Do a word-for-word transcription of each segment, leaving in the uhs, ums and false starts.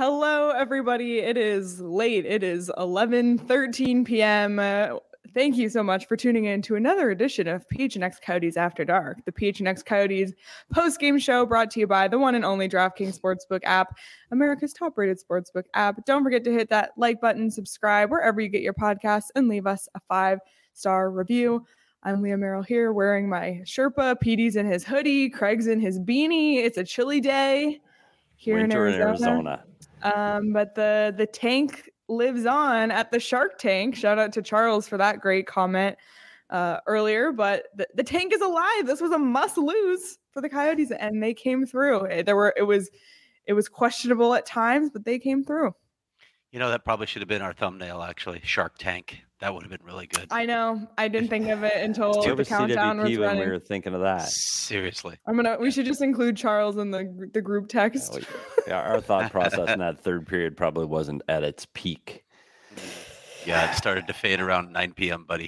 Hello, everybody. It is late. It is eleven thirteen p.m. Uh, thank you so much for tuning in to another edition of P H N X Coyotes After Dark, the P H N X Coyotes post-game show brought to you by the one and only DraftKings Sportsbook app, America's top-rated sportsbook app. Don't forget to hit that like button, subscribe wherever you get your podcasts, and leave us a five-star review. I'm Leah Merrill here wearing my Sherpa. P D's in his hoodie. Craig's in his beanie. It's a chilly day here Winter in Arizona. In Arizona. Um, but the the tank lives on at the Shark Tank. Shout out to Charles for that great comment uh, earlier. But the, the tank is alive. This was a must lose for the Coyotes, and they came through. There were it was it was questionable at times, but they came through. You know, that probably should have been our thumbnail, actually. Shark Tank. That would have been really good. I know. I didn't think of it until the countdown was running. When we were thinking of that. Seriously. I'm gonna. We should just include Charles in the the group text. Yeah, our thought process in that third period probably wasn't at its peak. Yeah, it started to fade around nine p.m., buddy.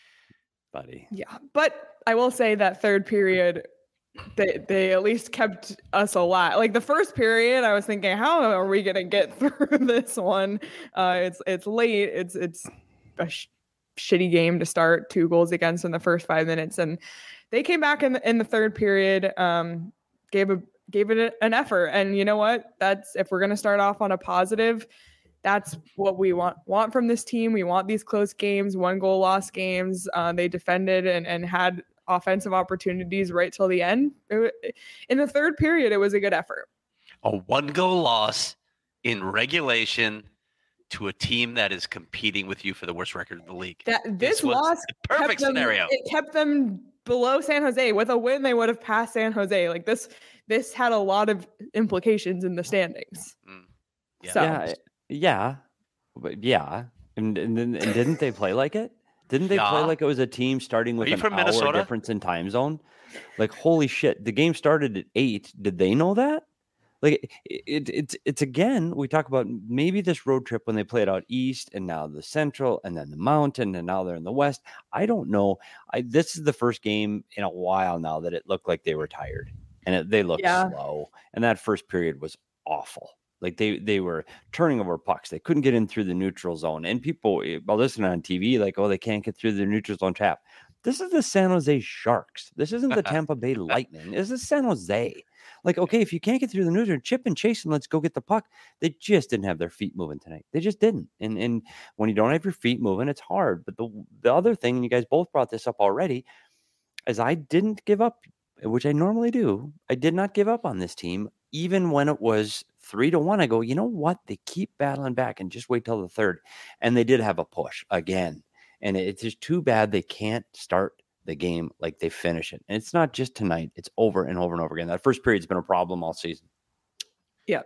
Buddy. Yeah, but I will say that third period, they they at least kept us alive. Like the first period, I was thinking, how are we gonna get through this one? Uh, it's it's late. It's it's a sh- shitty game to start. Two goals against in the first five minutes, and they came back in the, in the third period. Um, gave a gave it an effort, and you know what? That's if we're gonna start off on a positive. That's what we want want from this team. We want these close games, one goal loss games. Uh, they defended and and had offensive opportunities right till the end. It, in the third period, it was a good effort. A one goal loss in regulation to a team that is competing with you for the worst record in the league. That this, this loss, perfect them, scenario. It kept them below San Jose. With a win, they would have passed San Jose. Like this, this had a lot of implications in the standings. Mm. Yeah. So. yeah, yeah, but yeah, and, and and didn't they play like it? Didn't they yeah. play like it was a team starting with an from hour Minnesota? difference in time zone? Like holy shit, the game started at eight. Did they know that? Like it, it, it's it's again, we talk about maybe this road trip when they played out east and now the central and then the mountain and now they're in the west. I don't know. I this is the first game in a while now that it looked like they were tired and it, they looked yeah. slow. And that first period was awful. Like they they were turning over pucks. They couldn't get in through the neutral zone. And people while listening on T V, like, oh, they can't get through the neutral zone trap. This is the San Jose Sharks. This isn't the Tampa Bay Lightning. This is San Jose. Like, okay, if you can't get through the neutral, chip and chase and let's go get the puck. They just didn't have their feet moving tonight. They just didn't. And and when you don't have your feet moving, it's hard. But the the other thing, and you guys both brought this up already, is I didn't give up, which I normally do. I did not give up on this team, even when it was three to one. I go, you know what? They keep battling back and just wait till the third. And they did have a push again. And it's just too bad they can't start the game like they finish it. And it's not just tonight. It's over and over and over again. That first period's been a problem all season. Yeah.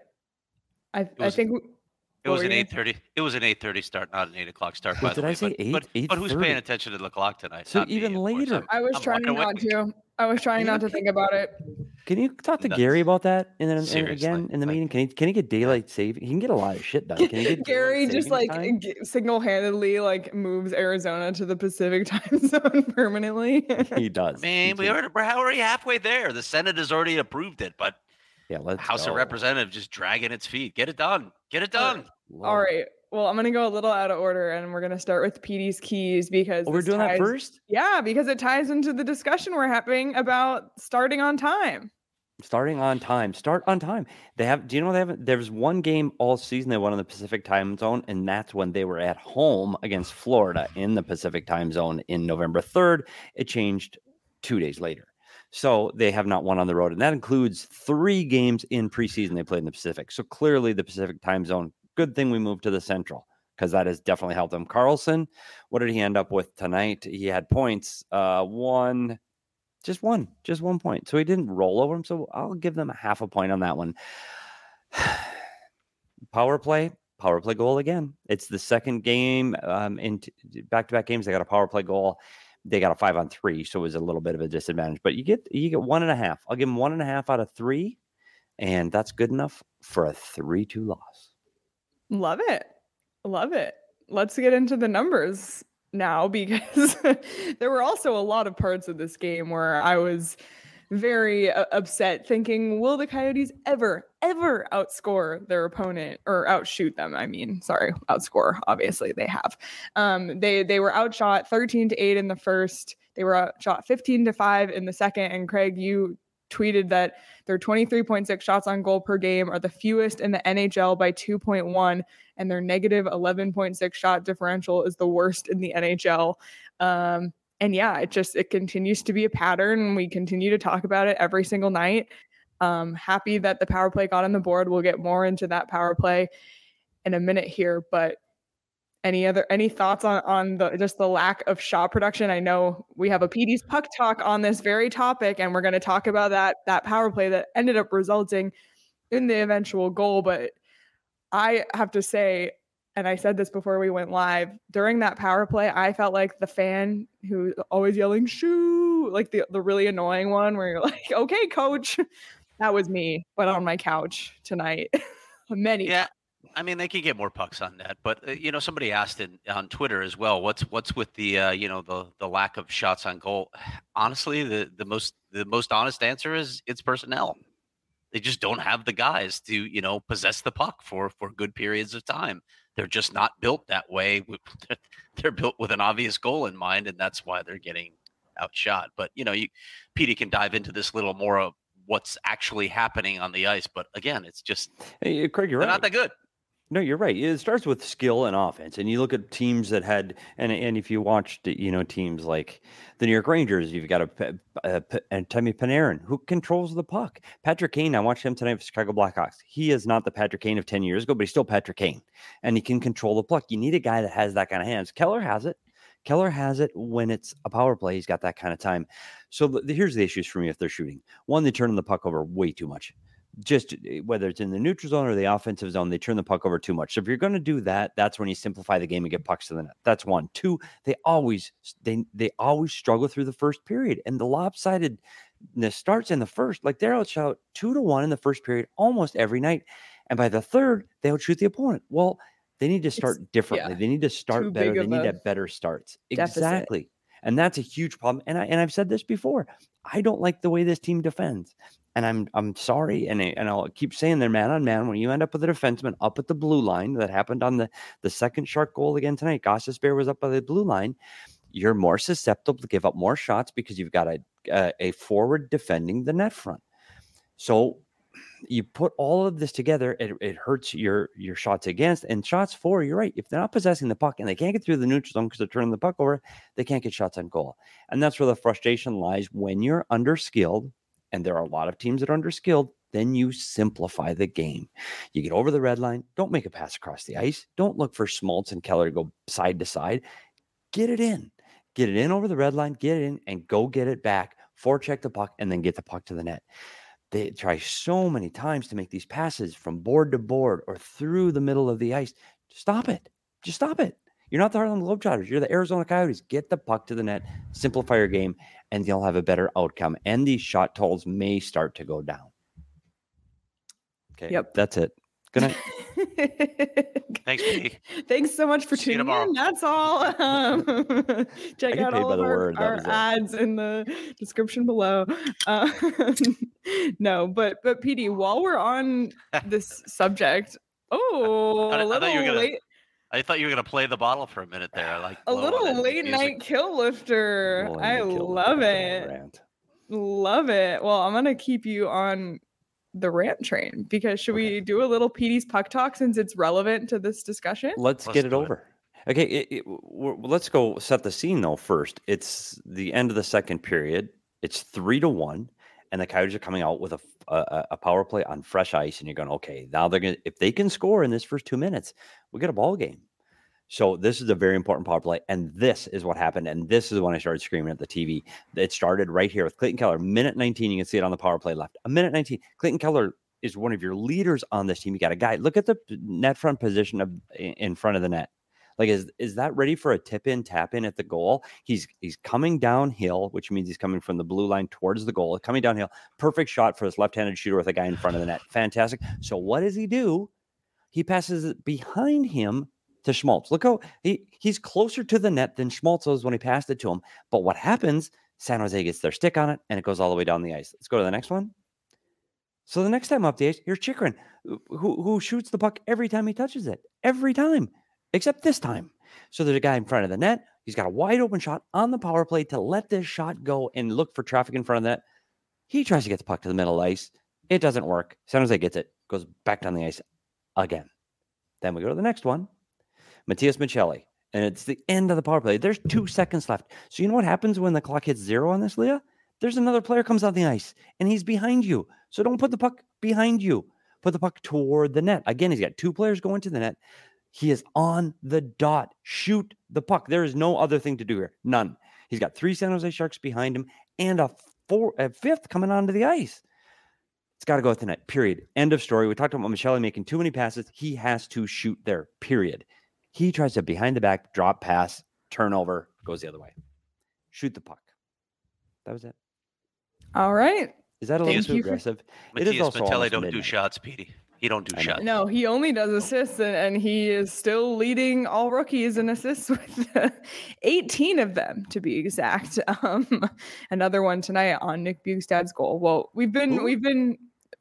I, was, I think... It was an eight thirty. It was an eight thirty start, not an eight o'clock start. By did the way. I say but, eight? But, eight but who's paying attention to the clock tonight? So not even me, later. I was I'm trying not away. to. I was trying not to think about it. Can you talk to Nuts. Gary about that? And then Seriously. again in the Like, meeting, can he can he get daylight saving? He can get a lot of shit done. Can he get Gary just like g- single-handedly like moves Arizona to the Pacific time zone permanently? He does. Man, we are, we're already halfway there. The Senate has already approved it, but yeah, let's House go. of Representatives just dragging its feet. Get it done. Get it done. All right. Well, I'm going to go a little out of order, and we're going to start with P D's keys because oh, we're doing ties, that first? Yeah, because it ties into the discussion we're having about starting on time. Starting on time. Start on time. They have. Do you know they have? There was one game all season they won in the Pacific time zone, and that's when they were at home against Florida in the Pacific time zone in November third. It changed two days later. So they have not won on the road, and that includes three games in preseason they played in the Pacific. So clearly the Pacific time zone. Good thing we moved to the Central because that has definitely helped them. Carlson, what did he end up with tonight? He had points, uh, one, just one, just one point. So he didn't roll over him. So I'll give them a half a point on that one. Power play, power play goal again. It's the second game um, in t- back-to-back games. They got a power play goal. They got a five on three, so it was a little bit of a disadvantage. But you get you get one and a half. I'll give them one and a half out of three, and that's good enough for a three two loss. Love it. Love it. Let's get into the numbers now because there were also a lot of parts of this game where I was very uh, upset, thinking, will the Coyotes ever, ever outscore their opponent or outshoot them? I mean, sorry, outscore. Obviously, they have. Um, they they were outshot thirteen to eight in the first. They were outshot fifteen to five in the second. And Craig, you tweeted that their twenty-three point six shots on goal per game are the fewest in the N H L by two point one, and their negative eleven point six shot differential is the worst in the N H L. Um, and yeah, it just it continues to be a pattern. We continue to talk about it every single night. Um, happy that the power play got on the board. We'll get more into that power play in a minute here, but Any other any thoughts on on the just the lack of shot production? I know we have a P D's Puck Talk on this very topic, and we're going to talk about that that power play that ended up resulting in the eventual goal. But I have to say, and I said this before we went live, during that power play, I felt like the fan who always yelling "shoo," like the the really annoying one, where you're like, "Okay, coach," that was me, but on my couch tonight, many Yeah. I mean, they could get more pucks on net, but uh, you know, somebody asked in, on Twitter as well. What's what's with the uh, you know the the lack of shots on goal? Honestly, the the most the most honest answer is it's personnel. They just don't have the guys to you know possess the puck for for good periods of time. They're just not built that way. They're built with an obvious goal in mind, and that's why they're getting outshot. But you know, you Petey can dive into this little more of what's actually happening on the ice. But again, it's just Hey, Craig, you're they're right. not that good. No, you're right. It starts with skill and offense, and you look at teams that had, and and if you watched, you know, teams like the New York Rangers, you've got a, a, a and Temi Panarin who controls the puck. Patrick Kane, I watched him tonight for Chicago Blackhawks. He is not the Patrick Kane of ten years ago, but he's still Patrick Kane, and he can control the puck. You need a guy that has that kind of hands. Keller has it. Keller has it when it's a power play. He's got that kind of time. So the, the, here's the issues for me if they're shooting. One, they turn the puck over way too much. Just whether it's in the neutral zone or the offensive zone, they turn the puck over too much. So if you're going to do that, that's when you simplify the game and get pucks to the net. That's one. Two, they always they they always struggle through the first period, and the lopsidedness starts in the first. Like they're outshot two to one in the first period almost every night, and by the third, they outshoot the opponent. Well, they need to start It's, differently. yeah, They need to start too better. big They of need to a have better starts. deficit. Exactly. And that's a huge problem. And I and I've said this before. I don't like the way this team defends. And I'm I'm sorry. And I, and I'll keep saying they're man on man. When you end up with a defenseman up at the blue line, that happened on the, the second Shark goal again tonight. Gostisbehere was up by the blue line. You're more susceptible to give up more shots because you've got a a, a forward defending the net front. So you put all of this together, it, it hurts your your shots against and shots for. You're right. If they're not possessing the puck and they can't get through the neutral zone because they're turning the puck over, they can't get shots on goal. And that's where the frustration lies when you're underskilled. And there are a lot of teams that are underskilled. Then you simplify the game. You get over the red line. Don't make a pass across the ice. Don't look for Schmaltz and Keller to go side to side. Get it in. Get it in over the red line. Get it in and go get it back. Forecheck the puck and then get the puck to the net. They try so many times to make these passes from board to board or through the middle of the ice. Stop it. Just stop it. You're not the Harlem Globetrotters. You're the Arizona Coyotes. Get the puck to the net, simplify your game, and you'll have a better outcome. And these shot totals may start to go down. Okay. Yep. That's it. Good night. Thanks, P. Thanks so much for See you tuning tomorrow. in. That's all. Um, check get out paid all by of the our, word. That our was it. ads in the description below. Um, no, but but P D, while we're on this subject, oh, I, a I little thought you were gonna. late, I thought you were gonna play the bottle for a minute there. I like a blow on little it, late music. night kill lifter. Rolling I to kill love the it. rant. Love it. Well, I'm gonna keep you on the rant train because should Okay. we do a little P D's Puck Talk since it's relevant to this discussion? Let's, Let's get it do it. over. Okay, it, it, we're, let's go set the scene though first. It's the end of the second period. It's three to one, and the Coyotes are coming out with a, a a power play on fresh ice, and you're going, okay, now they're gonna if they can score in this first two minutes, we get a ball game. So this is a very important power play, and this is what happened, and this is when I started screaming at the T V. It started right here with Clayton Keller, minute nineteen. You can see it on the power play left. A minute nineteen. Clayton Keller is one of your leaders on this team. You got a guy. Look at the net front position of in front of the net. Like, is is that ready for a tip in, tap in at the goal? He's he's coming downhill, which means he's coming from the blue line towards the goal. Coming downhill, perfect shot for this left-handed shooter with a guy in front of the net. Fantastic. So what does he do? He passes it behind him to Schmaltz. Look how he, he's closer to the net than Schmaltz was when he passed it to him. But what happens? San Jose gets their stick on it, and it goes all the way down the ice. Let's go to the next one. So the next time up the ice, here's Chychrun, who, who shoots the puck every time he touches it. Every time, except this time. So there's a guy in front of the net. He's got a wide open shot on the power play to let this shot go and look for traffic in front of that. He tries to get the puck to the middle of the ice. It doesn't work. San Jose gets it, goes back down the ice again. Then we go to the next one. Matias Maccelli. And it's the end of the power play. There's two seconds left. So you know what happens when the clock hits zero on this, Leah? There's another player comes on the ice, and he's behind you. So don't put the puck behind you. Put the puck toward the net. Again, he's got two players going to the net. He is on the dot. Shoot the puck. There is no other thing to do here. None. He's got three San Jose Sharks behind him and a, four, a fifth coming onto the ice. It's got to go at the net, period. End of story. We talked about Maccelli making too many passes. He has to shoot there, period. He tries to behind the back, drop pass, turnover, goes the other way. Shoot the puck. That was it. All right. Is that a little too aggressive? Matthias it is also Maccelli don't midnight. do shots, Petey. He don't do shots. No, he only does assists, and, and he is still leading all rookies in assists with uh, eighteen of them, to be exact. Um, another one tonight on Nick Bjugstad's goal. Well, we've been, Ooh. we've been,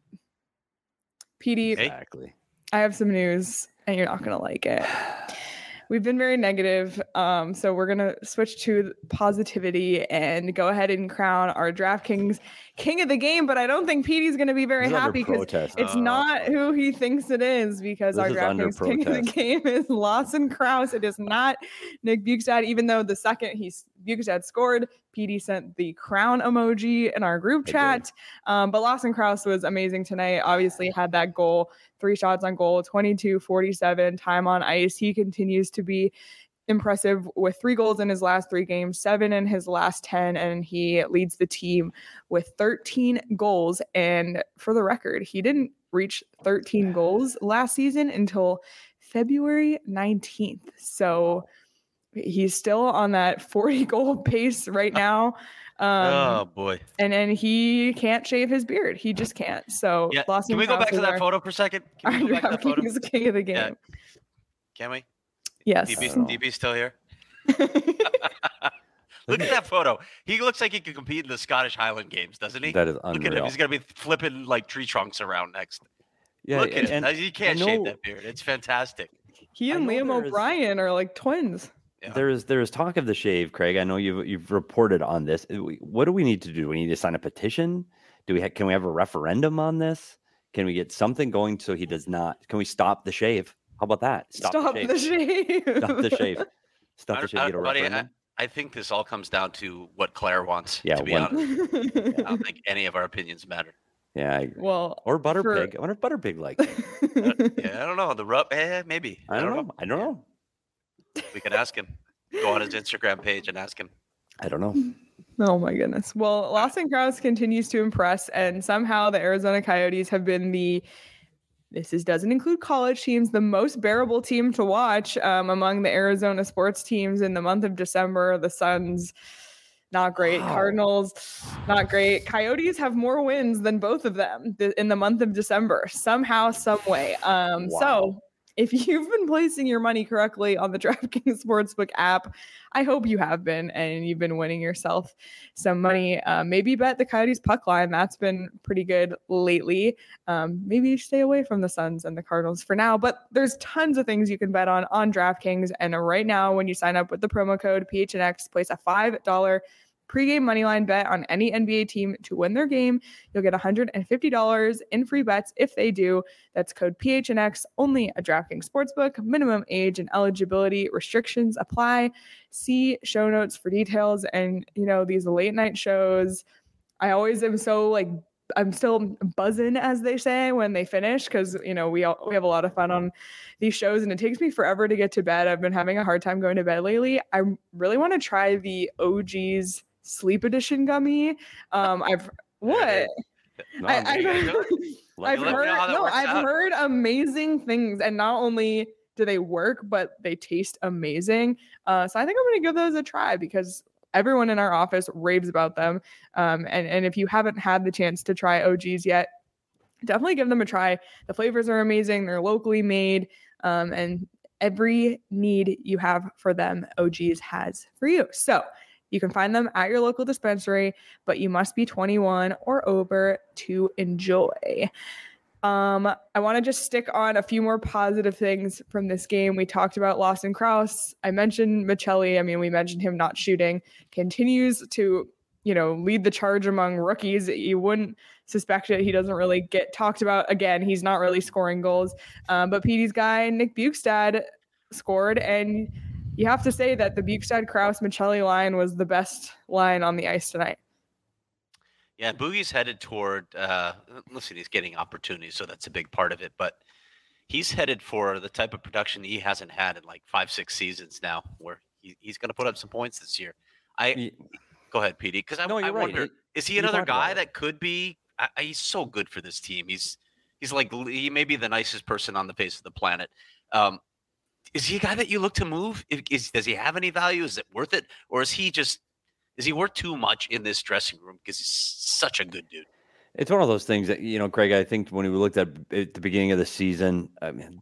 Petey, exactly. I have some news, and you're not going to like it. We've been very negative, um, so we're going to switch to positivity and go ahead and crown our DraftKings king of the game, but I don't think Petey's going to be very He's happy because it's uh, not who he thinks it is, because our DraftKings king of the game is Lawson Crouse. It is not Nick Bjugstad, even though the second he Bjugstad scored, Petey sent the crown emoji in our group chat. Um, but Lawson Crouse was amazing tonight. Obviously had that goal, three shots on goal, twenty-two forty-seven, time on ice. He continues to be impressive with three goals in his last three games, seven in his last ten, and he leads the team with thirteen goals. And for the record, he didn't reach thirteen goals last season until February nineteenth. So he's still on that forty goal pace right now. Um, oh boy! And then he can't shave his beard. He just can't. So yeah. Can we go back to that our, photo for a second? Can we go back to that photo? He's the king of the game. Yeah. Can we? Yes. D B's, D B's still here. Look at that photo. He looks like he could compete in the Scottish Highland Games, doesn't he? That is unreal. Look at him. He's gonna be flipping like tree trunks around next. Yeah, Look at and, him. He can't shave that beard. It's fantastic. He and Liam O'Brien are like twins. Yeah. There is there is talk of the shave, Craig. I know you've you've reported on this. What do we need to do? We need to sign a petition. Do we ha- can we have a referendum on this? Can we get something going so he does not? Can we stop the shave? How about that? Stop, stop the, shave. the shave. Stop the shave. Stop the shave. Get a buddy, referendum. I, I think this all comes down to what Claire wants. Yeah, to be one, honest, yeah, I don't think any of our opinions matter. Yeah, I agree. Well, or Butterpig. For... I wonder if Butterpig likes it. uh, yeah, I don't know. The rub, eh, maybe. I don't, I don't know. know. I don't know. We can ask him. Go on his Instagram page and ask him. I don't know. Oh my goodness. Well, Lawson Crouse continues to impress, and somehow the Arizona Coyotes have been the, this is, doesn't include college teams, the most bearable team to watch um, among the Arizona sports teams in the month of December. The Suns, not great. Wow. Cardinals, not great. Coyotes have more wins than both of them th- in the month of December, somehow, some way. Um, wow. So if you've been placing your money correctly on the DraftKings Sportsbook app, I hope you have been, and you've been winning yourself some money. Uh, maybe bet the Coyotes puck line. That's been pretty good lately. Um, maybe stay away from the Suns and the Cardinals for now, but there's tons of things you can bet on on DraftKings. And right now, when you sign up with the promo code P H N X, place a five dollars pregame moneyline bet on any N B A team to win their game. You'll get one hundred fifty dollars in free bets if they do. That's code P H N X, only a DraftKings Sportsbook. Minimum age and eligibility restrictions apply. See show notes for details. And, you know, these late night shows, I always am so like, I'm still buzzing, as they say, when they finish, because, you know, we all, we have a lot of fun on these shows, and it takes me forever to get to bed. I've been having a hard time going to bed lately. I really want to try the O G's Sleep Edition gummy. Um, I've what? No, I, I've heard, I've heard no, I've out. heard amazing things, and not only do they work, but they taste amazing. Uh, so I think I'm going to give those a try, because everyone in our office raves about them. Um, and and if you haven't had the chance to try O G's yet, definitely give them a try. The flavors are amazing. They're locally made, um, and every need you have for them, O G's has for you. So You can find them at your local dispensary, but you must be twenty-one or over to enjoy. Um, I want to just stick on a few more positive things from this game. We talked about Lawson Crouse. I mentioned Michelli. I mean, we mentioned him not shooting. Continues to, you know, lead the charge among rookies. You wouldn't suspect it. He doesn't really get talked about. Again, he's not really scoring goals. Um, but P D's guy, Nick Bjugstad, scored. And you have to say that the Bjugstad, Crouse, Michelli line was the best line on the ice tonight. Yeah, Boogie's headed toward, uh, listen, he's getting opportunities, so that's a big part of it. But he's headed for the type of production he hasn't had in like five, six seasons now, where he, he's going to put up some points this year. I yeah. Go ahead, P D, because I, no, I right. wonder, it, is he another guy that could be I, – he's so good for this team. He's he's like – he may be the nicest person on the face of the planet. Um, is he a guy that you look to move? Is, does he have any value? Is it worth it? Or is he just – is he worth too much in this dressing room because he's such a good dude? It's one of those things that, you know, Craig, I think when we looked at at the beginning of the season, I mean,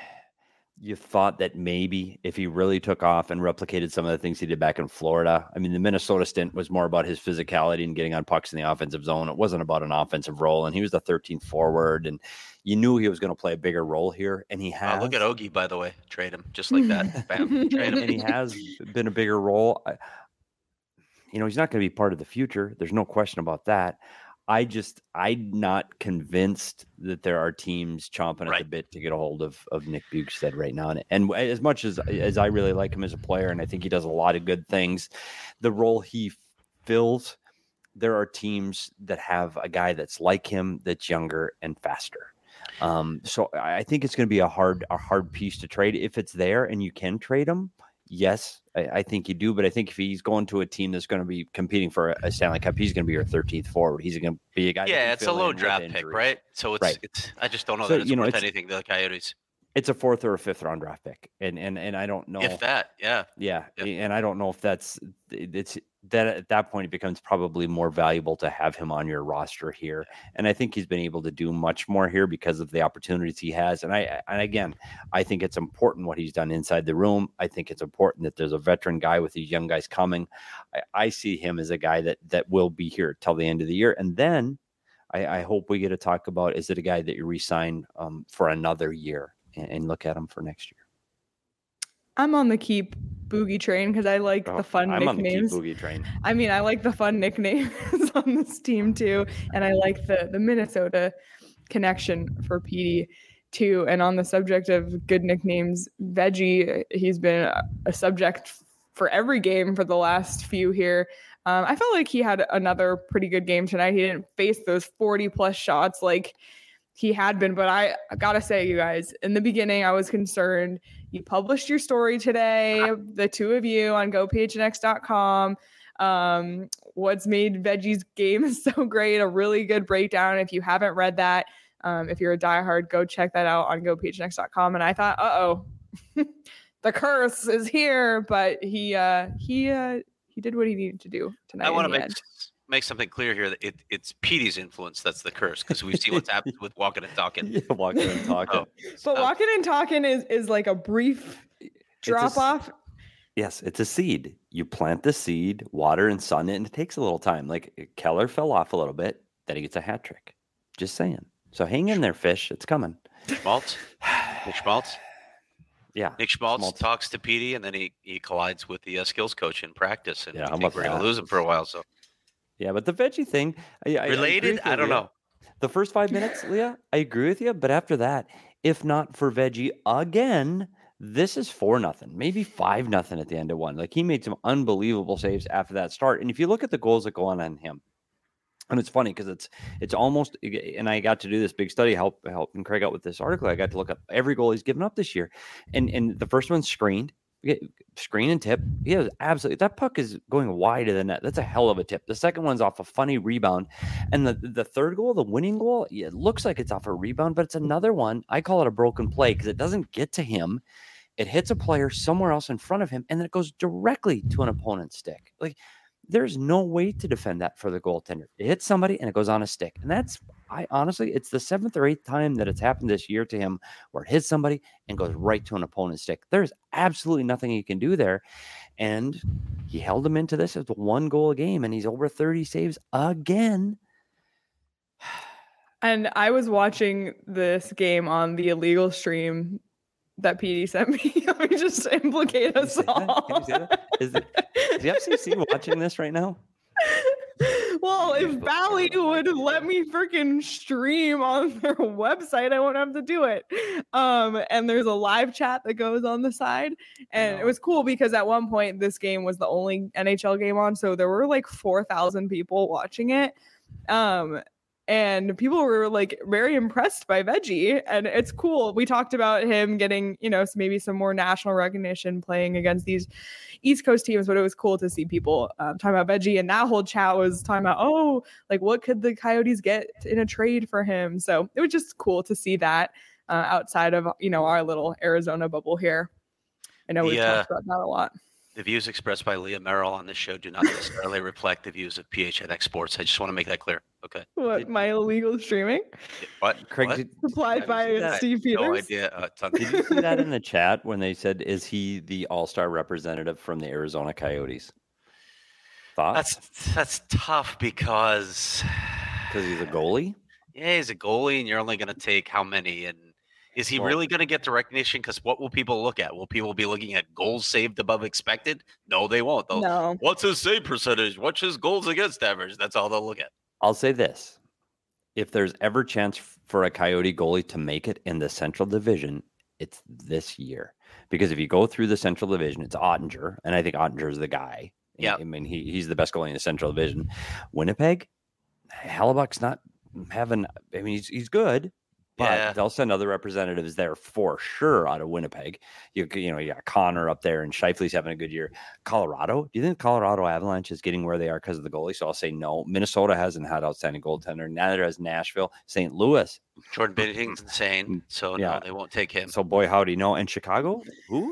you thought that maybe if he really took off and replicated some of the things he did back in Florida, I mean, the Minnesota stint was more about his physicality and getting on pucks in the offensive zone. It wasn't about an offensive role, and he was the thirteenth forward, and you knew he was going to play a bigger role here, and he has. Uh, look at Ogie, by the way. Trade him just like that. Bam, trade him. And he has been a bigger role. I, You know, he's not going to be part of the future. There's no question about that. I just, I'm not convinced that there are teams chomping at right. the bit to get a hold of, of Nick Bjugstad right now. And, and as much as, as I really like him as a player, and I think he does a lot of good things, the role he fills, there are teams that have a guy that's like him, that's younger and faster. Um, so I think it's going to be a hard, a hard piece to trade if it's there and you can trade him. Yes, I, I think you do, but I think if he's going to a team that's going to be competing for a Stanley Cup, he's going to be your thirteenth forward. He's going to be a guy. Yeah, it's a low draft pick, right? So it's, right. it's. I just don't know so, that it's you know, worth it's, anything to the Coyotes. It's a fourth or a fifth round draft pick, and and and I don't know if that. Yeah, yeah, yep. and I don't know if that's it's that at that point it becomes probably more valuable to have him on your roster here. And I think he's been able to do much more here because of the opportunities he has. And I and again, I think it's important what he's done inside the room. I think it's important that there's a veteran guy with these young guys coming. I, I see him as a guy that that will be here till the end of the year, and then I, I hope we get to talk about, is it a guy that you re-sign um, for another year and, and look at him for next year. I'm on the keep Boogie train because I like oh, the fun I'm nicknames. On the keep Boogie train. I mean, I like the fun nicknames on this team too, and I like the the Minnesota connection for P D too. And on the subject of good nicknames, Veggie, he's been a, a subject for every game for the last few here. Um, I felt like he had another pretty good game tonight. He didn't face those forty plus shots like he had been, but I, I gotta say, you guys, in the beginning, I was concerned. You published your story today, the two of you on go p h n x dot com. Um, what's made Veggie's game so great, a really good breakdown. If you haven't read that, um, if you're a diehard, go check that out on go p h n x dot com. And I thought, uh-oh, the curse is here, but he, uh, he, uh, he did what he needed to do tonight. I want to make end. make something clear here that it, it's Petey's influence that's the curse, because we've seen what's happened with Walking and Talking. Yeah, Walking and Talking. Oh, but so. Walking and Talking is is like a brief drop a, off. Yes, it's a seed. You plant the seed, water and sun it, and it takes a little time. Like Keller fell off a little bit, then he gets a hat trick. Just saying. So hang in there, fish. It's coming. Schmaltz? Nick Schmaltz? Yeah. Nick Schmaltz, Schmaltz. talks to Petey, and then he, he collides with the uh, skills coach in practice. And yeah, I how think about we're going that? to lose him for a while. So yeah, but the Veggie thing, I, I, related? I, I don't Leah. know. The first five minutes, Leah, I agree with you. But after that, if not for Veggie again, this is four nothing, maybe five nothing at the end of one. Like, he made some unbelievable saves after that start. And if you look at the goals that go on on him, and it's funny because it's it's almost, and I got to do this big study, help helping Craig out with this article. I got to look up every goal he's given up this year, and and the first one's screened. Screen and tip. He has absolutely, that puck is going wide of the net. That's a hell of a tip. The second one's off a funny rebound. And the, the third goal, the winning goal, it looks like it's off a rebound, but it's another one. I call it a broken play because it doesn't get to him. It hits a player somewhere else in front of him, and then it goes directly to an opponent's stick. Like, there's no way to defend that for the goaltender. It hits somebody and it goes on a stick. And that's, I honestly, it's the seventh or eighth time that it's happened this year to him where it hits somebody and goes right to an opponent's stick. There's absolutely nothing he can do there. And he held him into this as one goal a game, and he's over thirty saves again. And I was watching this game on the illegal stream that P D sent me. Let me just implicate us all. Can you say that? Is, it, is the F C C watching this right now? Well, if Bally would let me freaking stream on their website, I won't have to do it. Um, and there's a live chat that goes on the side. And it was cool because at one point this game was the only N H L game on. So there were like four thousand people watching it. Um, and people were like very impressed by Veggie, and it's cool. We talked about him getting, you know, maybe some more national recognition playing against these East Coast teams, but it was cool to see people um, talking about Veggie, and that whole chat was talking about, oh, like what could the Coyotes get in a trade for him? So it was just cool to see that uh, outside of, you know, our little Arizona bubble here. I know we've Yeah. talked about that a lot. The views expressed by Leah Merrill on this show do not necessarily reflect the views of P H N X Sports. I just want to make that clear. Okay. What, Did- my illegal streaming What? Craig, What? did, supplied Have by you seen that? Steve No Peters? idea. Uh, ton- did you see that in the chat when they said, is he the all-star representative from the Arizona Coyotes? Thoughts? That's that's tough because Because he's a goalie? yeah, he's a goalie, and you're only going to take how many? And is he Well- really going to get the recognition? Because what will people look at? Will people be looking at goals saved above expected? No, they won't. They'll, No. What's his save percentage? What's his goals against average? That's all they'll look at. I'll say this. If there's ever chance for a Coyote goalie to make it in the Central Division, it's this year. Because if you go through the Central Division, it's Ottinger, and I think Ottinger is the guy. Yeah. I mean, he, he's the best goalie in the Central Division. Winnipeg, Hellebuck's not having, I mean, he's, he's good, but Yeah. they'll send other representatives there for sure out of Winnipeg. You you know, you got Connor up there, and Scheifele's having a good year. Colorado, do you think Colorado Avalanche is getting where they are because of the goalie? So I'll say no. Minnesota hasn't had outstanding goaltender. Neither has Nashville. Saint Louis. Jordan Binnington's insane, so Yeah. no, they won't take him. So boy, howdy, no. And Chicago, who?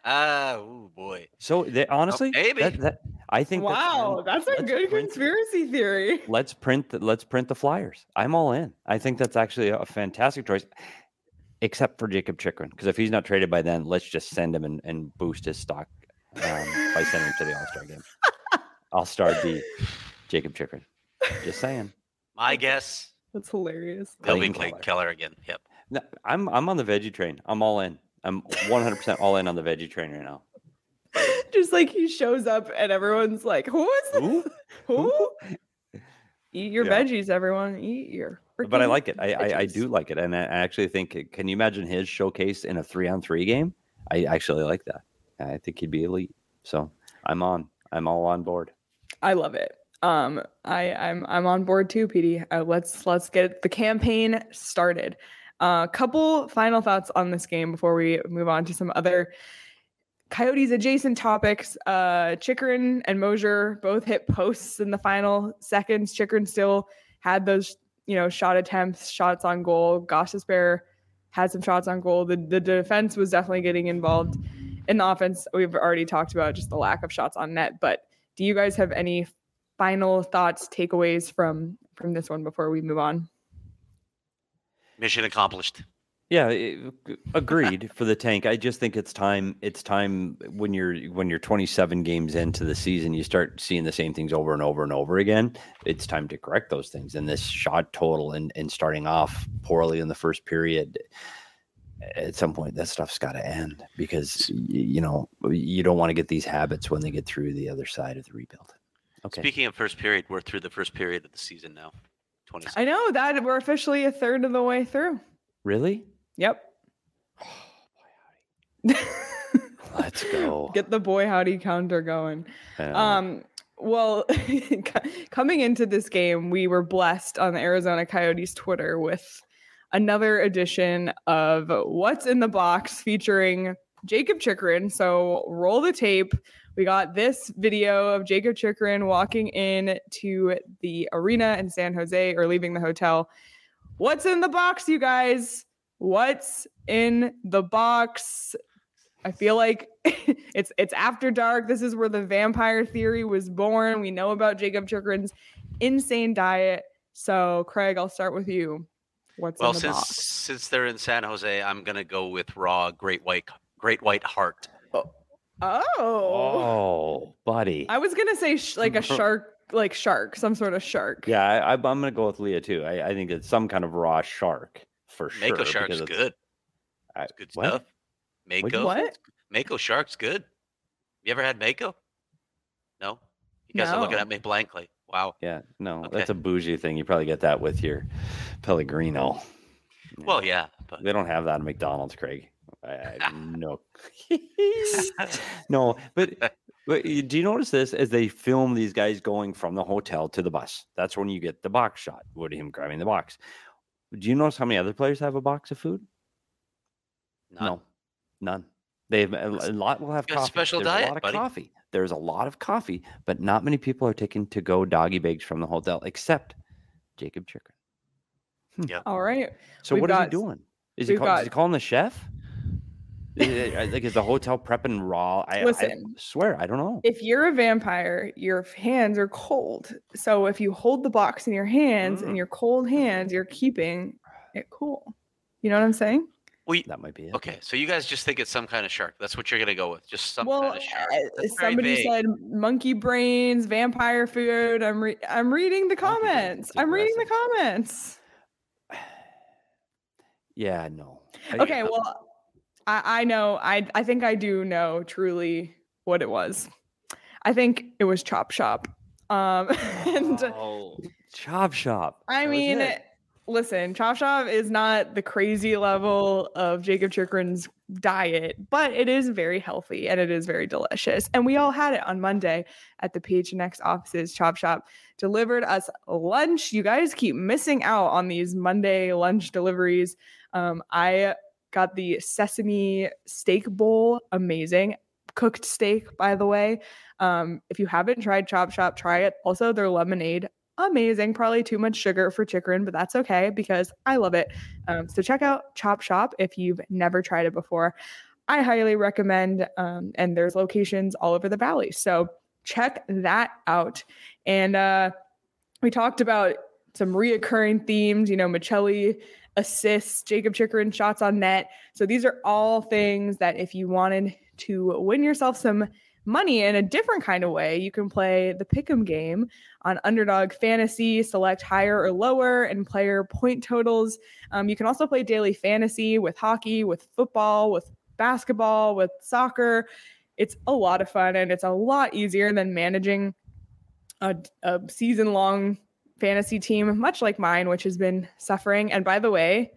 oh boy. So they honestly, maybe. that, that I think. Wow, that's, that's a let's good print- conspiracy theory. Let's print. The, let's print the Flyers. I'm all in. I think that's actually a fantastic choice, except for Jacob Chikrin, because if he's not traded by then, let's just send him and, and boost his stock um, by sending him to the All Star game. I'll start the Jacob Chikrin. Just saying. My guess, That's hilarious. they'll be Clayton Clayton Keller. Keller again. Yep. No, I'm I'm on the veggie train. I'm all in. I'm one hundred percent all in on the veggie train right now. Just like he shows up and everyone's like, who is this? Who? Who? Eat your Yeah. veggies, everyone. Eat your. But I freaking like it. I, I I veggies. do like it, and I actually think. Can you imagine his showcase in a three on three game? I actually like that. I think he'd be elite. So I'm on. I'm all on board. I love it. Um, I I'm I'm on board too, P D. Uh, let's let's get the campaign started. A uh, couple final thoughts on this game before we move on to some other Coyotes adjacent topics. Uh, Chikrin and Mosier both hit posts in the final seconds. Chikrin still had those, you know, shot attempts, shots on goal. Gostisbehere had some shots on goal. The the defense was definitely getting involved. In the offense, we've already talked about just the lack of shots on net. But do you guys have any final thoughts, takeaways from from this one before we move on? Mission accomplished. Yeah, it- agreed for the tank. I just think it's time. It's time when you're when you're twenty-seven games into the season, you start seeing the same things over and over and over again. It's time to correct those things. And this shot total and and starting off poorly in the first period, at some point that stuff's got to end, because y- you know you don't want to get these habits when they get through the other side of the rebuild. Okay. Speaking of first period, we're through the first period of the season now. twenty. I know that we're officially a third of the way through. Really? Yep. Let's go. Get the boy howdy counter going. Um, Um, well, coming into this game, we were blessed on the Arizona Coyotes Twitter with another edition of What's in the Box featuring Jacob Chikrin. So roll the tape. We got this video of Jacob Chikrin walking in to the arena in San Jose, or leaving the hotel. What's in the box, you guys? What's in the box? I feel like it's it's after dark. This is where the vampire theory was born. We know about Jacob Chikrin's insane diet. So, Craig, I'll start with you. What's Well, in the since box? since they're in San Jose, I'm gonna go with raw great white great white heart. Oh. Oh, buddy. I was gonna say sh- like a shark, like shark, some sort of shark. Yeah, I, I'm going to go with Leah too. I, I think it's some kind of raw shark for Mako sure. shark's because it's- good. I- It's good what? stuff. Mako. What? Mako shark's good. You ever had Mako? No? You guys are looking No. at me blankly. Wow. Yeah, no, Okay. that's a bougie thing. You probably get that with your Pellegrino. Well, yeah, but They don't have that at McDonald's, Craig. I, I no. no, but, but you- do you notice this as they film these guys going from the hotel to the bus? That's when you get the box shot with him grabbing the box. Do you notice how many other players have a box of food? none. No, none. They've a, a lot will have Got a coffee. special There's diet, a lot of buddy. coffee. There's a lot of coffee, but not many people are taking to go doggy bags from the hotel except Jacob Chikrin. All right. So We've what is he got- doing? Is he, we've call, got- is he calling the chef? Is it- like is the hotel prepping raw? I, I Listen. swear I don't know. If you're a vampire, your hands are cold. So if you hold the box in your hands Mm. and your cold hands, you're keeping it cool. You know what I'm saying? Well, you- That might be it. okay, so you guys just think it's some kind of shark. That's what you're going to go with. Just some well, kind of shark. uh, That's very somebody vague. said monkey brains, vampire food. I'm re- I'm reading the Monkey brains, comments. it's I'm reading the aggressive. comments. Yeah, no. I- Okay, well, I, I know. I I think I do know truly what it was. I think it was Chop Shop. Um, and Oh, Chop Shop. I That was mean, it. listen, Chop Shop is not the crazy level of Jacob Chikrin's diet, but it is very healthy and it is very delicious. And we all had it on Monday at the P H N X offices. Chop Shop delivered us lunch. You guys keep missing out on these Monday lunch deliveries. Um, I got the sesame steak bowl, amazing. Cooked steak, by the way. Um, if you haven't tried Chop Shop, try it. Also, their lemonade, amazing. Probably too much sugar for Chikrin, but that's okay because I love it. Um, so check out Chop Shop if you've never tried it before. I highly recommend, um, and there's locations all over the valley. So check that out. And uh, we talked about some reoccurring themes, you know, Michelli assists, Jacob Chikrin shots on net. So these are all things that if you wanted to win yourself some money in a different kind of way, you can play the Pick'em game on Underdog Fantasy, select higher or lower and player point totals. Um, you can also play daily fantasy with hockey, with football, with basketball, with soccer. It's a lot of fun and it's a lot easier than managing a, a season-long fantasy team, much like mine, which has been suffering. And by the way,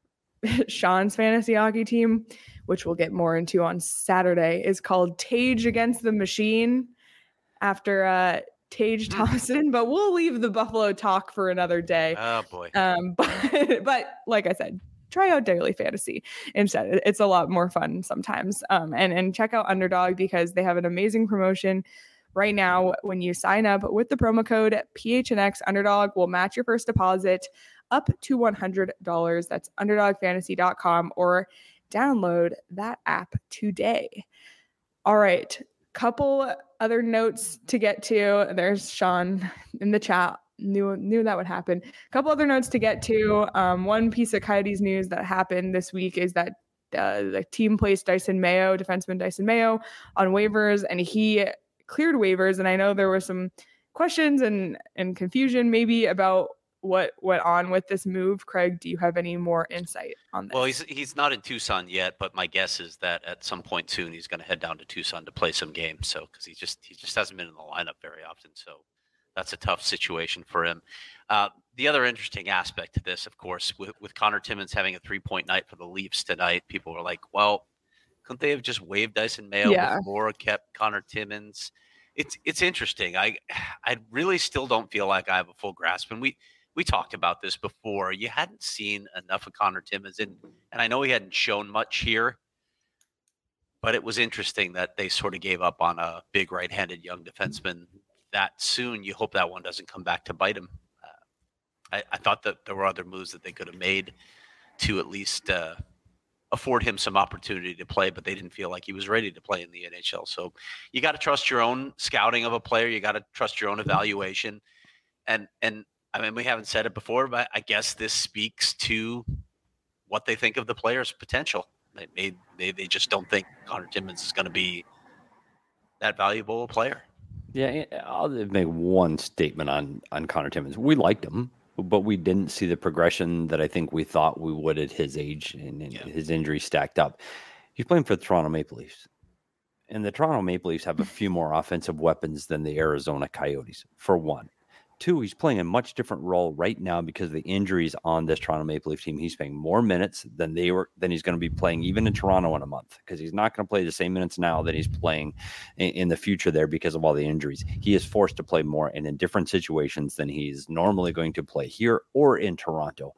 Sean's fantasy hockey team, which we'll get more into on Saturday, is called Tage Against the Machine after uh, Tage Thompson. But we'll leave the Buffalo talk for another day. Oh, boy. Um, but, but like I said, try out daily fantasy instead. It's a lot more fun sometimes. Um, and, and check out Underdog because they have an amazing promotion right now. When you sign up with the promo code P H N X, Underdog will match your first deposit up to one hundred dollars. That's underdog fantasy dot com or download that app today. All right. Couple other notes to get to. There's Sean in the chat. Knew knew that would happen. Couple other notes to get to. Um, one piece of Coyotes news that happened this week is that uh, the team placed Dyson Mayo, defenseman Dyson Mayo, on waivers, and he cleared waivers. And I know there were some questions and and confusion maybe about what went on with this move. Craig, do you have any more insight on this? Well, he's he's not in Tucson yet, but my guess is that at some point soon he's going to head down to Tucson to play some games. So because he just he just hasn't been in the lineup very often, so that's a tough situation for him. Uh, the other interesting aspect to this, of course, with, with Connor Timmins having a three-point night for the Leafs tonight, people were like, "Well, couldn't they have just waived Dyson Mayo Yeah. before kept Connor Timmins?" It's it's interesting. I I really still don't feel like I have a full grasp, and we. We talked about this before. You hadn't seen enough of Connor Timmins, and, and I know he hadn't shown much here, but it was interesting that they sort of gave up on a big right-handed young defenseman that soon. You hope that one doesn't come back to bite him. Uh, I, I thought that there were other moves that they could have made to at least uh, afford him some opportunity to play, but they didn't feel like he was ready to play in the N H L. So you got to trust your own scouting of a player. You got to trust your own evaluation. And, and, I mean, we haven't said it before, but I guess this speaks to what they think of the player's potential. They they, they just don't think Connor Timmins is going to be that valuable a player. Yeah, I'll make one statement on on Connor Timmins. We liked him, but we didn't see the progression that I think we thought we would at his age, and, and yeah. his injury stacked up. He's playing for the Toronto Maple Leafs, and the Toronto Maple Leafs have a few more offensive weapons than the Arizona Coyotes, for one. Two, he's playing a much different role right now because of the injuries on this Toronto Maple Leaf team. He's playing more minutes than they were than he's going to be playing even in Toronto in a month, because he's not going to play the same minutes now that he's playing in, in the future there because of all the injuries. He is forced to play more and in different situations than he's normally going to play here or in Toronto.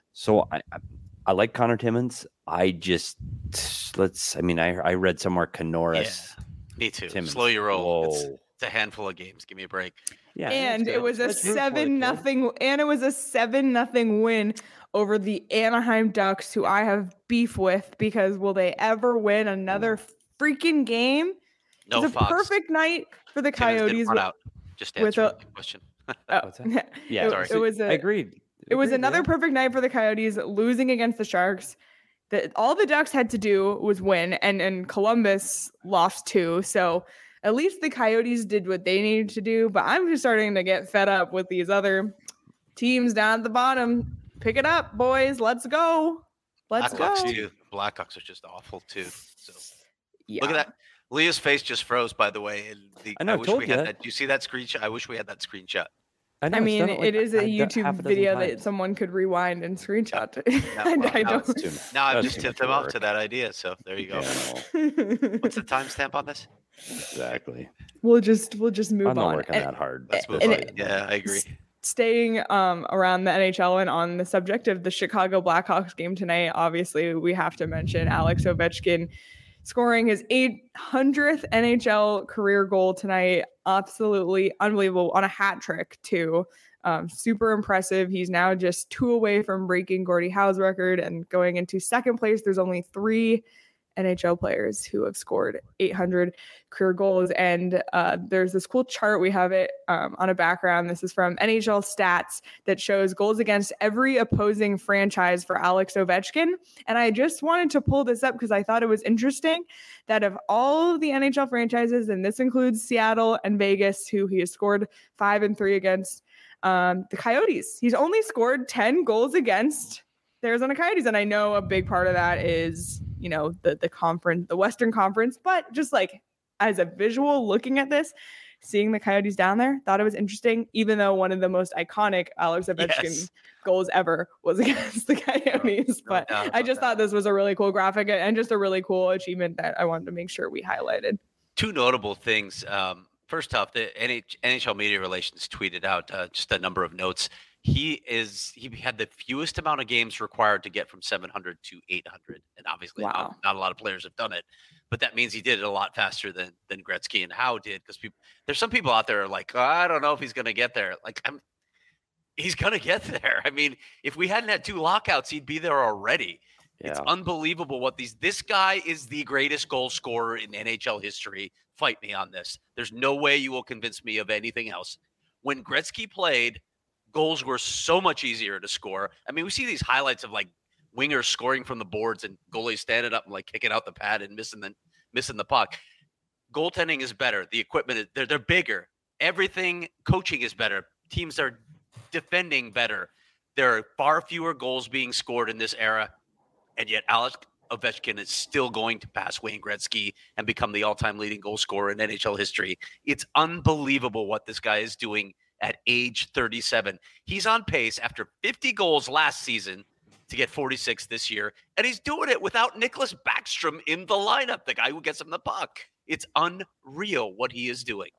So I, I, I like Connor Timmins. I just let's. I mean, I I read somewhere Canoris. Yeah, me too. Timmins. Slow your roll. It's, it's a handful of games. Give me a break. Yeah, and it was a Let's seven nothing, and it was a seven nothing win over the Anaheim Ducks, who I have beef with because will they ever win another freaking game? No, it's a Fox. Perfect night for the Coyotes. With, out. Just answer the question. Oh, yeah, it, sorry. it was. A, I agreed. It agreed, was another yeah. perfect night for the Coyotes, losing against the Sharks. That all the Ducks had to do was win, and and Columbus lost too. So. At least the Coyotes did what they needed to do, but I'm just starting to get fed up with these other teams down at the bottom. Pick it up, boys. Let's go. Let's Blackhawks go. Too. Blackhawks are just awful too. So yeah. Look at that. Leah's face just froze, by the way. And the, I know. I I wish told we you had that. that. Do you see that screenshot? I wish we had that screenshot. I, know, I mean, like it is a YouTube a video times. that someone could rewind and screenshot. To. Now, I, well, I now, don't. Too, now I've that's just too tipped much them off work. to that idea. So there you go. Yeah, What's the timestamp on this? Exactly. We'll just we'll just move I'm not on. working And- that hard. Let's move and on. it- Yeah, I agree. Staying um, around the N H L and on the subject of the Chicago Blackhawks game tonight, obviously we have to mention Alex Ovechkin scoring his eight hundredth N H L career goal tonight. Absolutely unbelievable, on a hat trick too. Um, super impressive. He's now just two away from breaking Gordie Howe's record and going into second place. There's only three N H L players who have scored eight hundred career goals. And uh, there's this cool chart. We have it um, on a background. This is from N H L Stats that shows goals against every opposing franchise for Alex Ovechkin. And I just wanted to pull this up because I thought it was interesting that of all of the N H L franchises, and this includes Seattle and Vegas, who he has scored five and three against, um, the Coyotes, he's only scored ten goals against the Arizona Coyotes. And I know a big part of that is, you know, the the conference, the Western Conference, but just like as a visual looking at this, seeing the Coyotes down there, thought it was interesting, even though one of the most iconic Alex Ovechkin Yes. goals ever was against the Coyotes. No But doubt I about just that. thought this was a really cool graphic and just a really cool achievement that I wanted to make sure we highlighted. Two notable things. Um, first off, the N H L Media Relations tweeted out uh, just a number of notes. He is he had the fewest amount of games required to get from seven hundred to eight hundred, and obviously Wow. not, not a lot of players have done it. But that means he did it a lot faster than than Gretzky and Howe did, because people there's some people out there are like, oh, I don't know if he's going to get there. Like I'm, he's going to get there. I mean, if we hadn't had two lockouts, he'd be there already. It's Yeah. unbelievable what these. This guy is the greatest goal scorer in N H L history. Fight me on this. There's no way you will convince me of anything else. When Gretzky played, goals were so much easier to score. I mean, we see these highlights of like wingers scoring from the boards and goalies standing up and like kicking out the pad and missing the missing the puck. Goaltending is better. The equipment is they're they're bigger. Everything, coaching is better. Teams are defending better. There are far fewer goals being scored in this era, and yet Alex Ovechkin is still going to pass Wayne Gretzky and become the all-time leading goal scorer in N H L history. It's unbelievable what this guy is doing at age thirty-seven. He's on pace after fifty goals last season to get forty-six this year, and he's doing it without Nicholas Backstrom in the lineup, the guy who gets him the puck. It's unreal what he is doing.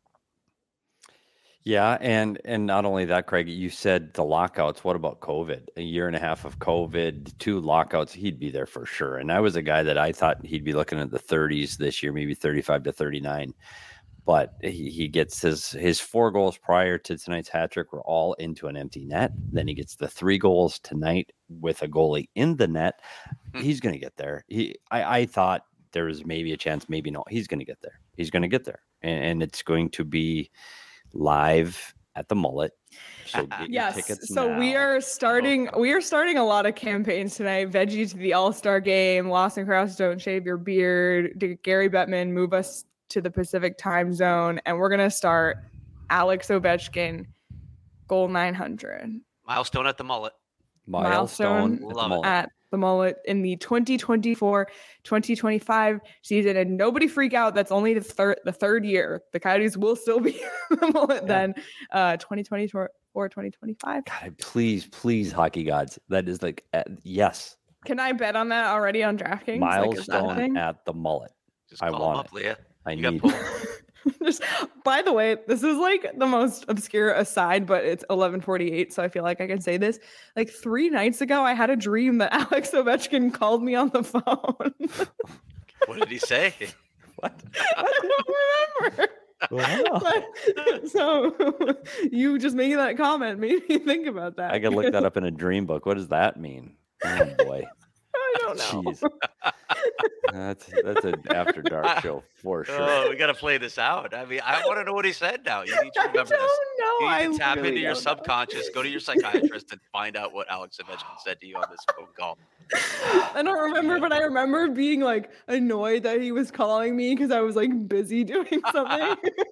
Yeah, and and not only that, Craig, you said the lockouts. What about COVID? A year and a half of COVID, two lockouts, he'd be there for sure. And I was a guy that I thought he'd be looking at the thirties this year, maybe thirty-five to thirty-nine. But he, he gets his his four goals prior to tonight's hat trick were all into an empty net. Then he gets the three goals tonight with a goalie in the net. He's going to get there. He, I, I thought there was maybe a chance, maybe not. He's going to get there. He's going to get there, and, and it's going to be live at the Mullet. So get your Yes. tickets So now. we are starting we are starting a lot of campaigns tonight. Veggie to the All-Star game, Lawson Krause, Don't Shave Your Beard, D- Gary Bettman, Move Us to the Pacific time zone, and we're gonna start Alex Ovechkin, goal nine hundred. Milestone at the mullet. Milestone, Milestone at the Love it. mullet. At the mullet in the twenty twenty-four twenty twenty-five season. And nobody freak out. That's only the third the third year. The Coyotes will still be the mullet Yeah. then. Uh, twenty twenty-four twenty twenty-five. God, please, please, hockey gods. That is like, uh, yes, Can I bet on that already on DraftKings? Like, is that a milestone thing? at the mullet. Just I call want him up, Leah. I You got need. pulled. Just, by the way, this is like the most obscure aside, but it's eleven forty-eight, so I feel like I can say this. Like three nights ago, I had a dream that Alex Ovechkin called me on the phone. What did he say? What? I don't remember. Wow. But- so you just making that comment made me think about that. I could look that up in a dream book. What does that mean? Oh boy, I don't know. jeez, that's that's an after dark show for sure. Oh, we got to play this out. I mean, I want to know what he said now. You need to I don't remember this. know. You need I to tap really into your don't know. subconscious, go to your psychiatrist, and find out what Alex Ovechkin said to you on this phone call. I don't remember, but I remember being like annoyed that he was calling me because I was like busy doing something.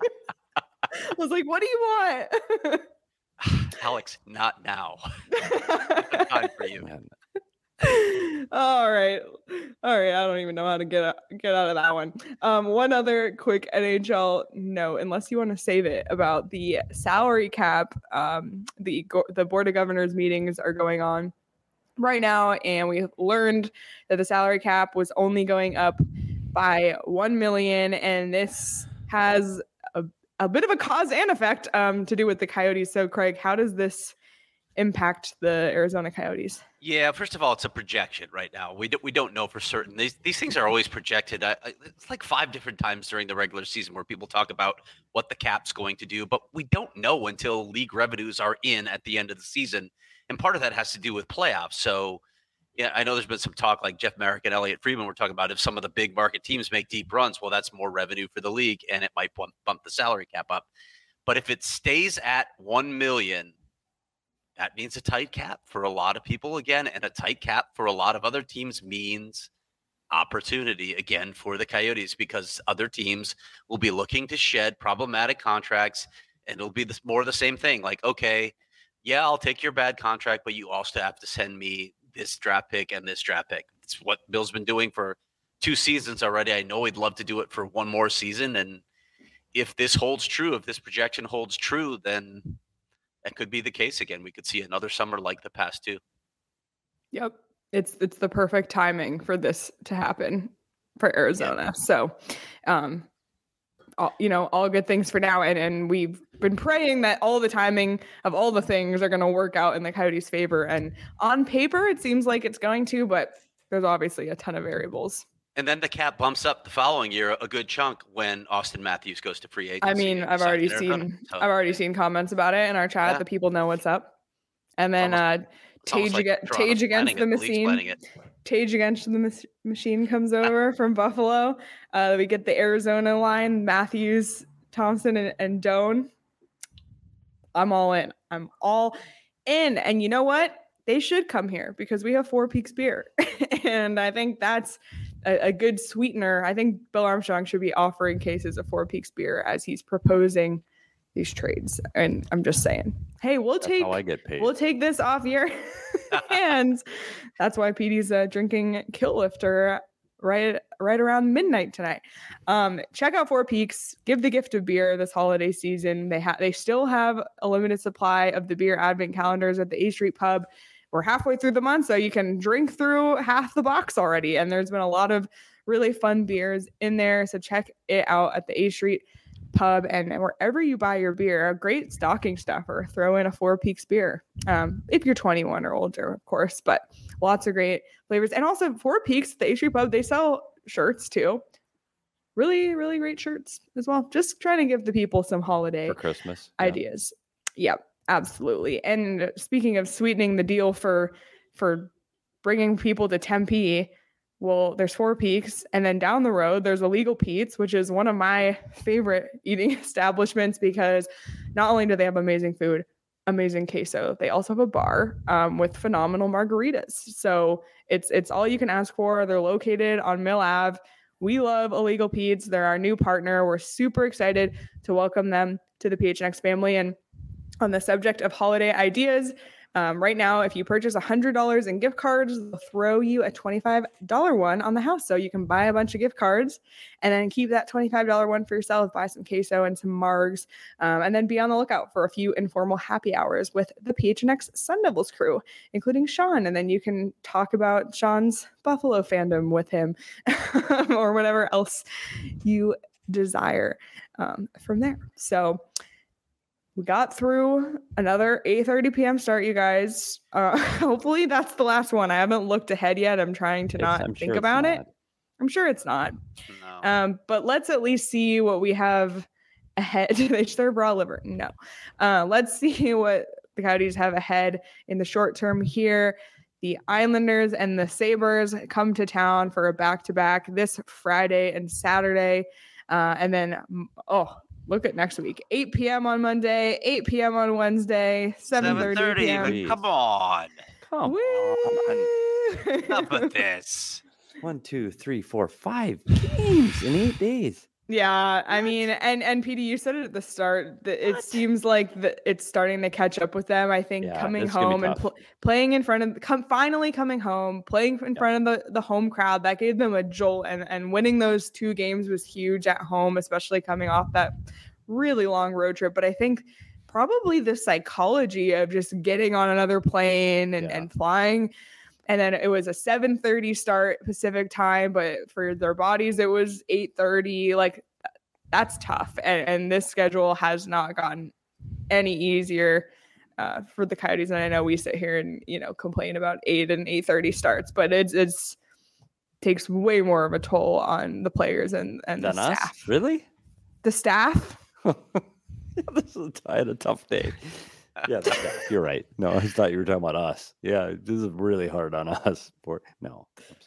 I was like, "What do you want?" Alex, not now. Not time for you. Man, All right, all right. I don't even know how to get out, get out of that one. Um, one other quick N H L note, unless you want to save it, about the salary cap. Um, the go- the board of governors meetings are going on right now, and we learned that the salary cap was only going up by one million, and this has a, a bit of a cause and effect um, to do with the Coyotes. So, Craig, how does this impact the Arizona Coyotes? Yeah, first of all, it's a projection right now. We don't we don't know for certain. These these things are always projected. I, I, it's like five different times during the regular season where people talk about what the cap's going to do, but we don't know until league revenues are in at the end of the season, and part of that has to do with playoffs. So, yeah, I know there's been some talk like Jeff Merrick and Elliot Friedman were talking about if some of the big market teams make deep runs, well, that's more revenue for the league, and it might bump, bump the salary cap up. But if it stays at one million. That means a tight cap for a lot of people again, and a tight cap for a lot of other teams means opportunity again for the Coyotes because other teams will be looking to shed problematic contracts, and it'll be this, more of the same thing. Like, okay, yeah, I'll take your bad contract, but you also have to send me this draft pick and this draft pick. It's what Bill's been doing for two seasons already. I know he'd love to do it for one more season, and if this holds true, if this projection holds true, then that could be the case again. We could see another summer like the past two. Yep. It's it's the perfect timing for this to happen for Arizona. Yeah. So, um, all, you know, all good things for now. And, and we've been praying that all the timing of all the things are going to work out in the Coyotes' favor. And on paper, it seems like it's going to, but there's obviously a ton of variables. And then the cap bumps up the following year a good chunk when Austin Matthews goes to free agency. I mean, I've already seen so, I've already seen comments about it in our chat. Yeah. The people know what's up. And then almost, uh, Tage, like against, Tage against the it, machine. Tage against the mas- machine comes over from Buffalo. Uh, we get the Arizona line: Matthews, Thompson, and, and Doan. I'm all in. I'm all in. And you know what? They should come here because we have Four Peaks beer, and I think that's a, a good sweetener. I think Bill Armstrong should be offering cases of Four Peaks beer as he's proposing these trades. And I'm just saying, hey, we'll that's take how I get paid. We'll take this off your hands. That's why P D's uh, drinking Kill Lifter right right around midnight tonight. Um, check out Four Peaks. Give the gift of beer this holiday season. They have they still have a limited supply of the beer advent calendars at the A Street Pub. We're halfway through the month, so you can drink through half the box already. And there's been a lot of really fun beers in there. So check it out at the A Street Pub, and wherever you buy your beer, a great stocking stuffer. Throw in a Four Peaks beer. Um, if you're twenty-one or older, of course, but lots of great flavors. And also Four Peaks, the A Street Pub, they sell shirts too. Really, really great shirts as well. Just trying to give the people some holiday for Christmas ideas. Yeah. Yep. Absolutely. And speaking of sweetening the deal for for bringing people to Tempe, well, there's Four Peaks, and then down the road there's Illegal Pete's, which is one of my favorite eating establishments because not only do they have amazing food, amazing queso, they also have a bar um, with phenomenal margaritas. So it's it's all you can ask for. They're located on Mill Avenue, We love Illegal Pete's. They're our new partner. We're super excited to welcome them to the P H N X family. And on the subject of holiday ideas, um, right now, if you purchase one hundred dollars in gift cards, they'll throw you a twenty-five dollars one on the house. So you can buy a bunch of gift cards and then keep that twenty-five dollars one for yourself, buy some queso and some margs, um, and then be on the lookout for a few informal happy hours with the P H N X Sun Devils crew, including Sean. And then you can talk about Sean's Buffalo fandom with him or whatever else you desire um, from there. So we got through another eight thirty p.m. start, you guys. Uh, hopefully that's the last one. I haven't looked ahead yet. I'm trying to not I'm think sure about not. it. I'm sure it's not. No. Um, but let's at least see what we have ahead. They serve raw liver. No. Uh, let's see what the Coyotes have ahead in the short term here. The Islanders and the Sabres come to town for a back-to-back this Friday and Saturday. Uh, and then, oh, look at next week. eight p.m. on Monday, eight p.m. on Wednesday, seven thirty p.m. Jeez. Come on. Come Woo! on. Enough of this. One, two, three, four, five games in eight days. Yeah, I mean, and and P D, you said it at the start that it What? seems like the, it's starting to catch up with them. I think Yeah, coming it's gonna be home and tough. pl- playing in front of, come finally coming home, playing in Yeah. front of the, the home crowd, that gave them a jolt, and and winning those two games was huge at home, especially coming off that really long road trip. But I think probably the psychology of just getting on another plane and, Yeah. and flying. And then it was a seven thirty start Pacific time, but for their bodies, it was eight thirty. Like, that's tough. And, and this schedule has not gotten any easier uh, for the Coyotes. And I know we sit here and, you know, complain about eight and eight thirty starts, but it's, it's takes way more of a toll on the players and, and the Than us? staff. Really? The staff? This is I had a tough day. Yeah, the staff. You're right. No, I thought you were talking about us. Yeah, this is really hard on us. Poor, no, I'm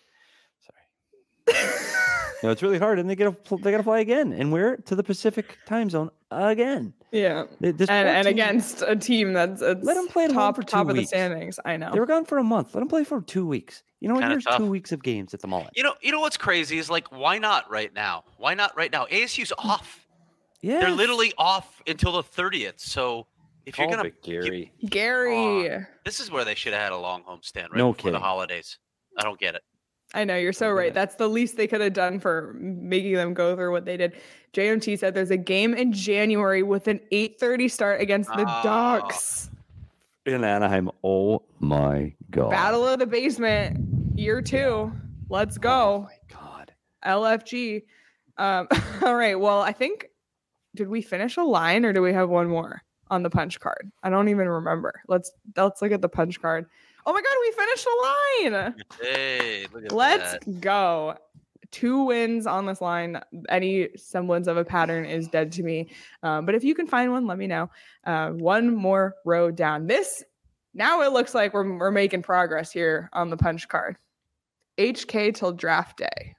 sorry. Sorry. No, it's really hard, and they get to they got to fly again, and we're to the Pacific time zone again. Yeah. They- this And, poor and team- against a team that's it's Let 'em play at home top, for two top of the weeks. standings. I know. They were gone for a month. Let them play for two weeks. You know what? Kinda Here's tough. two weeks of games at the Mullet. You know, you know what's crazy is like, why not right now? Why not right now? A S U's off. Yeah, They're literally off until the thirtieth. So if you're gonna, Gary. Gary. this is where they should have had a long homestand right No before the kidding. holidays. I don't get it. I know, you're so I get right. it. That's the least they could have done for making them go through what they did. J M T said there's a game in January with an eight thirty start against the Oh. Ducks. In Anaheim. Oh my god. Battle of the Basement, year two. Let's Oh go. my god. L F G. Um, all right. Well, I think, did we finish a line or do we have one more on the punch card? I don't even remember. Let's let's look at the punch card. Oh my god, we finished a line. Hey, look at Let's that. go. Two wins on this line. Any semblance of a pattern is dead to me. Um, but if you can find one, let me know. Uh, one more row down. This, now it looks like we're, we're making progress here on the punch card. H K till draft day.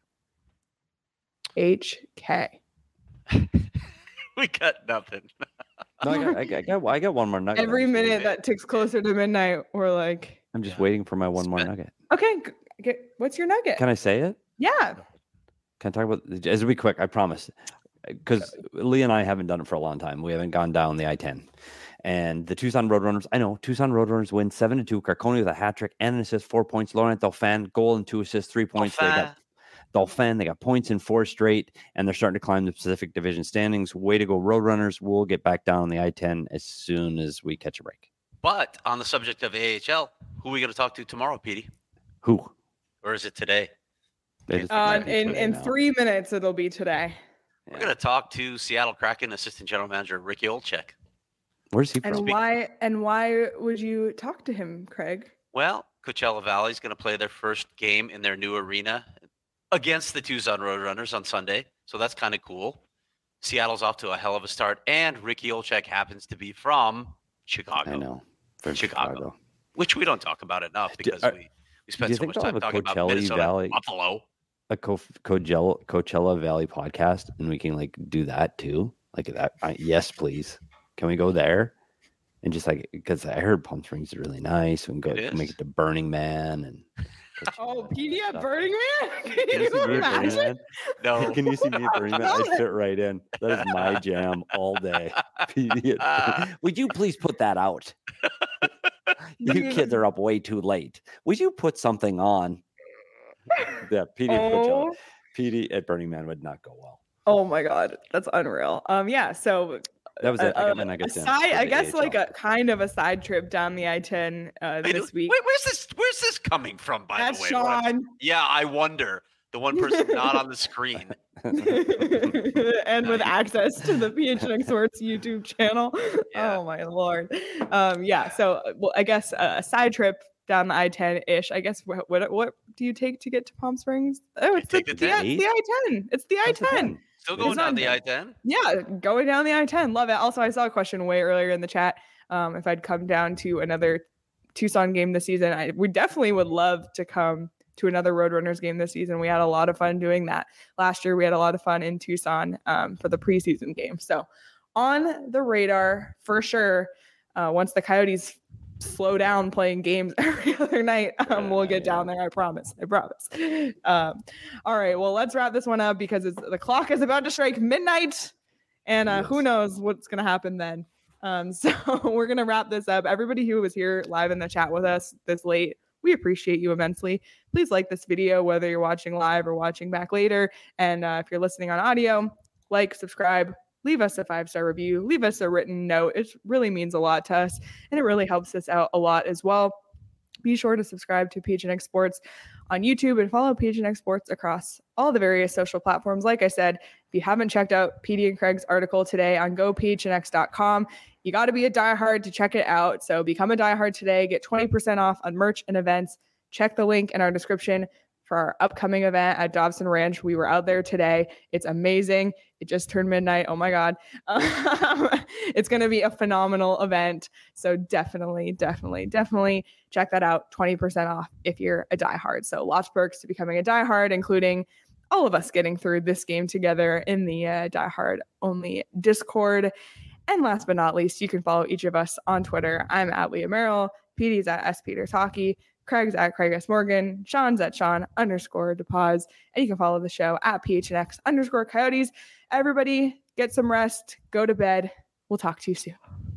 H K. We got nothing. No, I got, I got, I got, I got one more nugget. Every I'm just minute waiting- that ticks closer to midnight, we're like, I'm just Yeah. waiting for my one more Spent. nugget. okay, g- get, what's your nugget? Can I say it? yeah. Can I talk about? It'll be quick. I promise. Because Lee and I haven't done it for a long time. We haven't gone down the I ten. And the Tucson Roadrunners, I know Tucson Roadrunners win seven to two. Carconi with a hat trick and an assist, four points. Laurent Dauphin, goal and two assists, three points. They got Dauphin. They got points in four straight, and they're starting to climb the Pacific Division standings. Way to go, Roadrunners. We'll get back down on the I ten as soon as we catch a break. But on the subject of A H L, who are we going to talk to tomorrow, Petey? Who? Or is it today? They just- Uh, might be in today in now. three minutes, it'll be today. We're going to talk to Seattle Kraken assistant general manager Ricky Olczyk. Where's he from? And why and why would you talk to him, Craig? Well, Coachella Valley is going to play their first game in their new arena against the Tucson Roadrunners on Sunday. So that's kind of cool. Seattle's off to a hell of a start. And Ricky Olczyk happens to be from Chicago, I know. From Chicago. Chicago. which we don't talk about enough because are- we, we spend you so think much they'll time have a talking about Coachella Minnesota Valley- and Buffalo. A Co- Coachella, Coachella Valley podcast, and we can like do that too. Like that. I, yes, please. Can we go there? And just like, because I heard Palm Springs is really nice. We can go It make is. it to Burning Man and put you Oh, on P D all at that Burning Man? stuff. Can Can you you see me at Burning imagine? Man? No. Can you see me at Burning Man? I fit right in. That is my jam all day. P D at Burning- Would you please put that out? You Dude. kids are up way too late. Would you put something on? Yeah, P D at Coachella. Oh. P D at Burning Man would not go well. Oh my God, that's unreal. Um, yeah. So That was it. I a, got my a nuggets in. side, for I the guess, like A H L. a kind of a side trip down the I ten uh, Wait, this week. wait, where's this? Where's this coming from? By That's the way, What- Sean. yeah, I wonder. The one person not on the screen. And with access to the P H N X Sports YouTube channel. Yeah. Oh my Lord. Um, yeah. So, uh, well, I guess uh, a side trip down the I ten ish. I guess what, what what do you take to get to Palm Springs? Oh, it's the, take the the, ten. it's the I ten. It's the I That's the ten. ten. Still It's going down on the there. I ten? Yeah, going down the I ten. Love it. Also, I saw a question way earlier in the chat. Um, if I'd come down to another Tucson game this season, I we definitely would love to come to another Roadrunners game this season. We had a lot of fun doing that. Last year, we had a lot of fun in Tucson um, for the preseason game. So on the radar for sure. Uh, once the Coyotes slow down playing games every other night, um, we'll get down there. I promise. I promise. Um, all right. Well, let's wrap this one up because it's, the clock is about to strike midnight, and uh, Yes. who knows what's going to happen then. Um, so we're going to wrap this up. Everybody who was here live in the chat with us this late, we appreciate you immensely. Please like this video, whether you're watching live or watching back later. And uh, if you're listening on audio, like, subscribe, leave us a five-star review, leave us a written note. It really means a lot to us, and it really helps us out a lot as well. Be sure to subscribe to P H N X Sports on YouTube and follow P H N X Sports across all the various social platforms. Like I said, if you haven't checked out P D and Craig's article today on go p h n x dot com, you got to be a diehard to check it out. So become a diehard today. Get twenty percent off on merch and events. Check the link in our description for our upcoming event at Dobson Ranch. We were out there today. It's amazing. It just turned midnight. Oh my God. Um, it's going to be a phenomenal event. So definitely, definitely, definitely check that out. twenty percent off if you're a diehard. So lots of perks to becoming a diehard, including all of us getting through this game together in the uh, diehard only Discord. And last but not least, you can follow each of us on Twitter. I'm at Leah Merrill. P D's at S Peters Hockey. Craig's at Craig S. Morgan. Sean's at Sean underscore DePause. And you can follow the show at P H N X underscore Coyotes. Everybody get some rest. Go to bed. We'll talk to you soon.